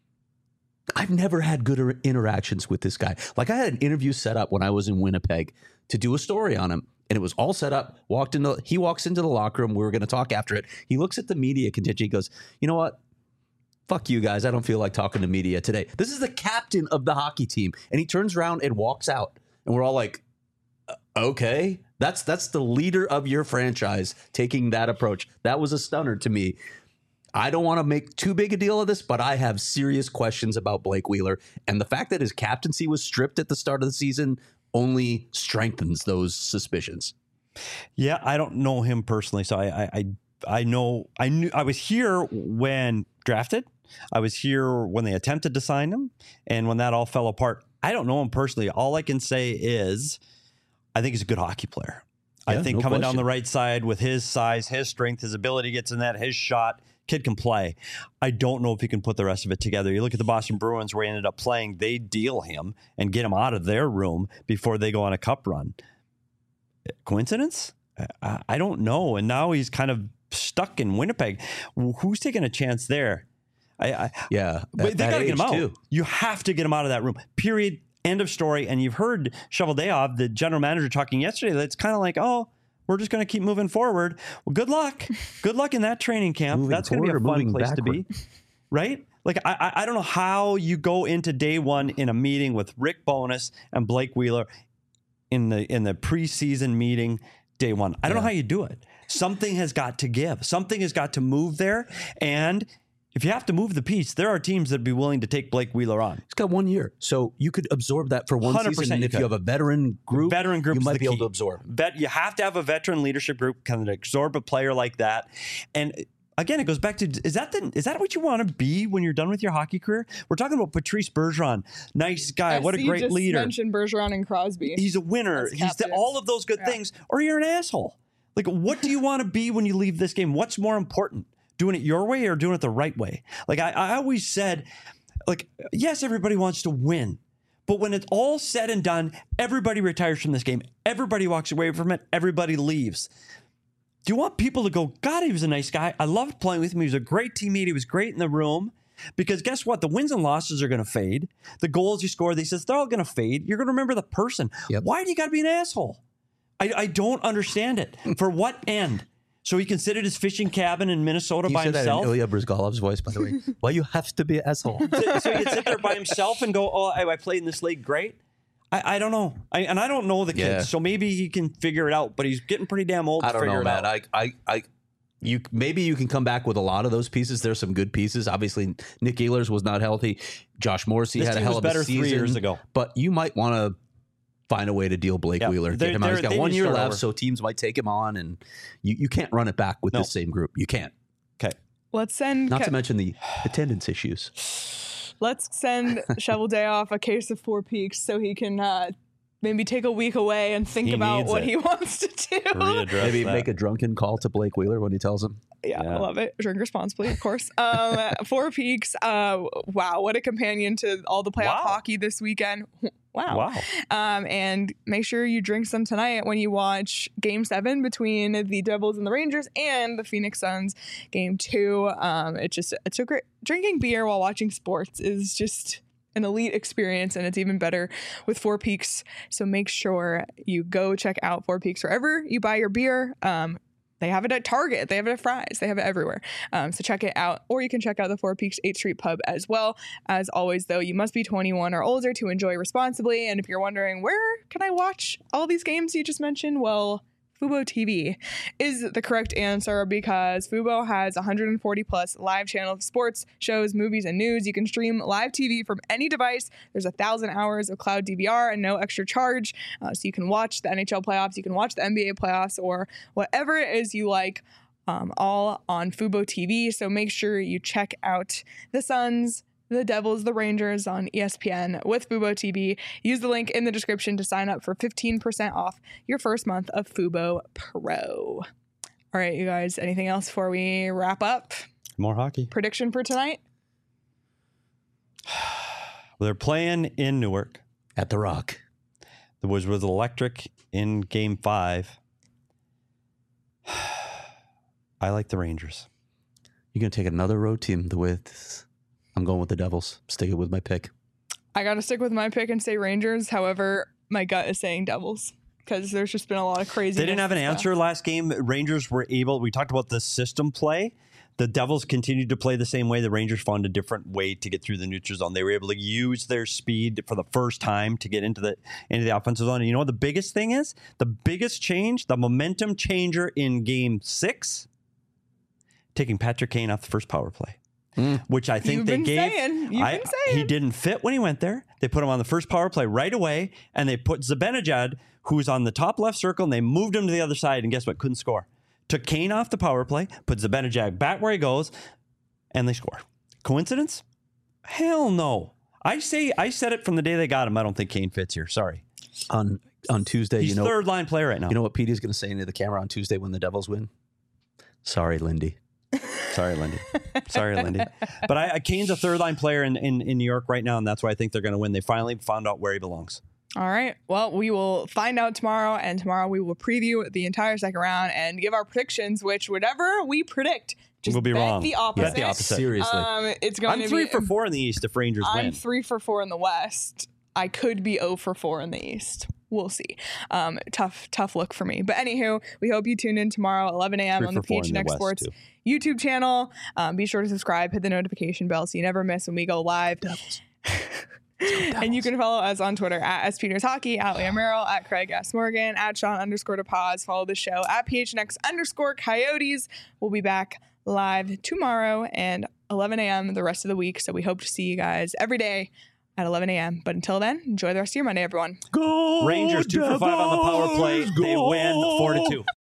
I've never had good interactions with this guy. Like, I had an interview set up when I was in Winnipeg to do a story on him, and it was all set up. He walks into the locker room. We were going to talk after it. He looks at the media contingent. He goes, "You know what? Fuck you guys. I don't feel like talking to media today." This is the captain of the hockey team, and he turns around and walks out, and we're all like, "Okay, that's the leader of your franchise taking that approach." That was a stunner to me. I don't want to make too big a deal of this, but I have serious questions about Blake Wheeler. And the fact that his captaincy was stripped at the start of the season only strengthens those suspicions. Yeah, I don't know him personally, so I knew I was here when drafted. I was here when they attempted to sign him, and when that all fell apart. I don't know him personally. All I can say is I think he's a good hockey player. Yeah, I think no coming question. down the right side with his size, his strength, his ability gets in that, his shot, kid can play. I don't know if he can put the rest of it together. You look at the Boston Bruins where he ended up playing, they deal him and get him out of their room before they go on a cup run. Coincidence? I don't know. And now he's kind of stuck in Winnipeg. Who's taking a chance there? But they got to get him out. Too. You have to get him out of that room. Period. End of story. And you've heard Cheveldayoff, the general manager, talking yesterday. That's kind of like, oh, we're just going to keep moving forward. Well, good luck. Good luck in that training camp. That's going to be a fun place to be. Right? Like, I don't know how you go into day one in a meeting with Rick Bowness and Blake Wheeler in the preseason meeting day one. I don't know how you do it. Something has got to give. Something has got to move there. And if you have to move the piece, there are teams that would be willing to take Blake Wheeler on. He's got 1 year, so you could absorb that for one season. And if you have a veteran group, you might be able to absorb. You have to have a veteran leadership group kind of absorb a player like that. And again, it goes back to, is that what you want to be when you're done with your hockey career? We're talking about Patrice Bergeron. Nice guy. What a great just leader. Mentioned Bergeron and Crosby. He's a winner. He's all of those good things. Or you're an asshole. Like, what do you want to be when you leave this game? What's more important? Doing it your way or doing it the right way? Like, I always said, like, yes, everybody wants to win. But when it's all said and done, everybody retires from this game. Everybody walks away from it. Everybody leaves. Do you want people to go, God, he was a nice guy. I loved playing with him. He was a great teammate. He was great in the room. Because guess what? The wins and losses are going to fade. The goals you score, they're all going to fade. You're going to remember the person. Yep. Why do you got to be an asshole? I don't understand it. For what end? So he can sit at his fishing cabin in Minnesota by himself? That in Ilya Bryzgalov's voice, by the way. Why you have to be an asshole? So he can sit there by himself and go, oh, I played in this league great? I don't know. I don't know the kid. Yeah. So maybe he can figure it out, but he's getting pretty damn old to figure it out. I don't know, man. Maybe you can come back with a lot of those pieces. There's some good pieces. Obviously, Nick Ehlers was not healthy. Josh Morrissey had a hell of a season. 3 years ago. But you might want to find a way to deal Blake Wheeler. Get him out. He's got 1 year left, so teams might take him on, and you can't run it back with this same group. You can't. Okay. Let's send... Not to mention the attendance issues. Let's send Shovel Day off a case of Four Peaks so he can maybe take a week away and think about what he wants to do. Maybe make a drunken call to Blake Wheeler when he tells him. Yeah, I love it. Drink responsibly, of course. Four Peaks, wow, what a companion to all the playoff hockey this weekend. Wow. And make sure you drink some tonight when you watch Game 7 between the Devils and the Rangers and the Phoenix Suns Game 2. It's a great... Drinking beer while watching sports is just an elite experience, and it's even better with Four Peaks. So make sure you go check out Four Peaks wherever you buy your beer. They have it at Target. They have it at Fry's. They have it everywhere. So check it out. Or you can check out the Four Peaks 8th Street Pub as well. As always, though, you must be 21 or older to enjoy responsibly. And if you're wondering, where can I watch all these games you just mentioned? Well, Fubo TV is the correct answer because Fubo has 140 plus live channels of sports, shows, movies, and news. You can stream live TV from any device. There's 1,000 hours of cloud DVR and no extra charge. So you can watch the NHL playoffs, you can watch the NBA playoffs, or whatever it is you like, all on Fubo TV. So make sure you check out the Suns, the Devils, the Rangers on ESPN with Fubo TV. Use the link in the description to sign up for 15% off your first month of Fubo Pro. All right, you guys, anything else before we wrap up? More hockey. Prediction for tonight? Well, they're playing in Newark. At the Rock. There was electric in Game 5. I like the Rangers. You're going to take another road team the way this... I'm going with the Devils. Sticking with my pick. I got to stick with my pick and say Rangers. However, my gut is saying Devils because there's just been a lot of crazy. They didn't have an answer last game. Rangers were able. We talked about the system play. The Devils continued to play the same way. The Rangers found a different way to get through the neutral zone. They were able to use their speed for the first time to get into the offensive zone. And you know what the biggest thing is? The biggest change, the momentum changer in Game 6, taking Patrick Kane off the first power play. Which I think they gave. He didn't fit when he went there. They put him on the first power play right away, and they put Zibanejad, who's on the top left circle, and they moved him to the other side, and guess what? Couldn't score. Took Kane off the power play, put Zibanejad back where he goes, and they score. Coincidence? Hell no. I said it from the day they got him. I don't think Kane fits here. Sorry. On Tuesday, he's third line player right now. You know what Petey's going to say into the camera on Tuesday when the Devils win? Sorry, Lindy. Sorry, Lindy. But Kane's a third-line player in New York right now, and that's why I think they're going to win. They finally found out where he belongs. All right. Well, we will find out tomorrow, and tomorrow we will preview the entire second round and give our predictions, which whatever we predict, just we'll be wrong. The opposite. Bet the opposite. Seriously. It's going to be... I'm 3 for 4 in the East if Rangers win. I'm 3 for 4 in the West. I could be 0 for 4 in the East. We'll see. Tough look for me. But anywho, we hope you tune in tomorrow, 11 a.m. on the PHNX Sports YouTube channel. Be sure to subscribe, hit the notification bell so you never miss when we go live. And you can follow us on Twitter at SPetersHockey, at Liam Merrill, at Craig S. Morgan, at Sean_DePaz. Follow the show at PHNX_Coyotes. We'll be back live tomorrow and 11 a.m. the rest of the week. So we hope to see you guys every day at 11 a.m. But until then, enjoy the rest of your Monday, everyone. Go Rangers 2 for 5 on the power play. They win 4-2.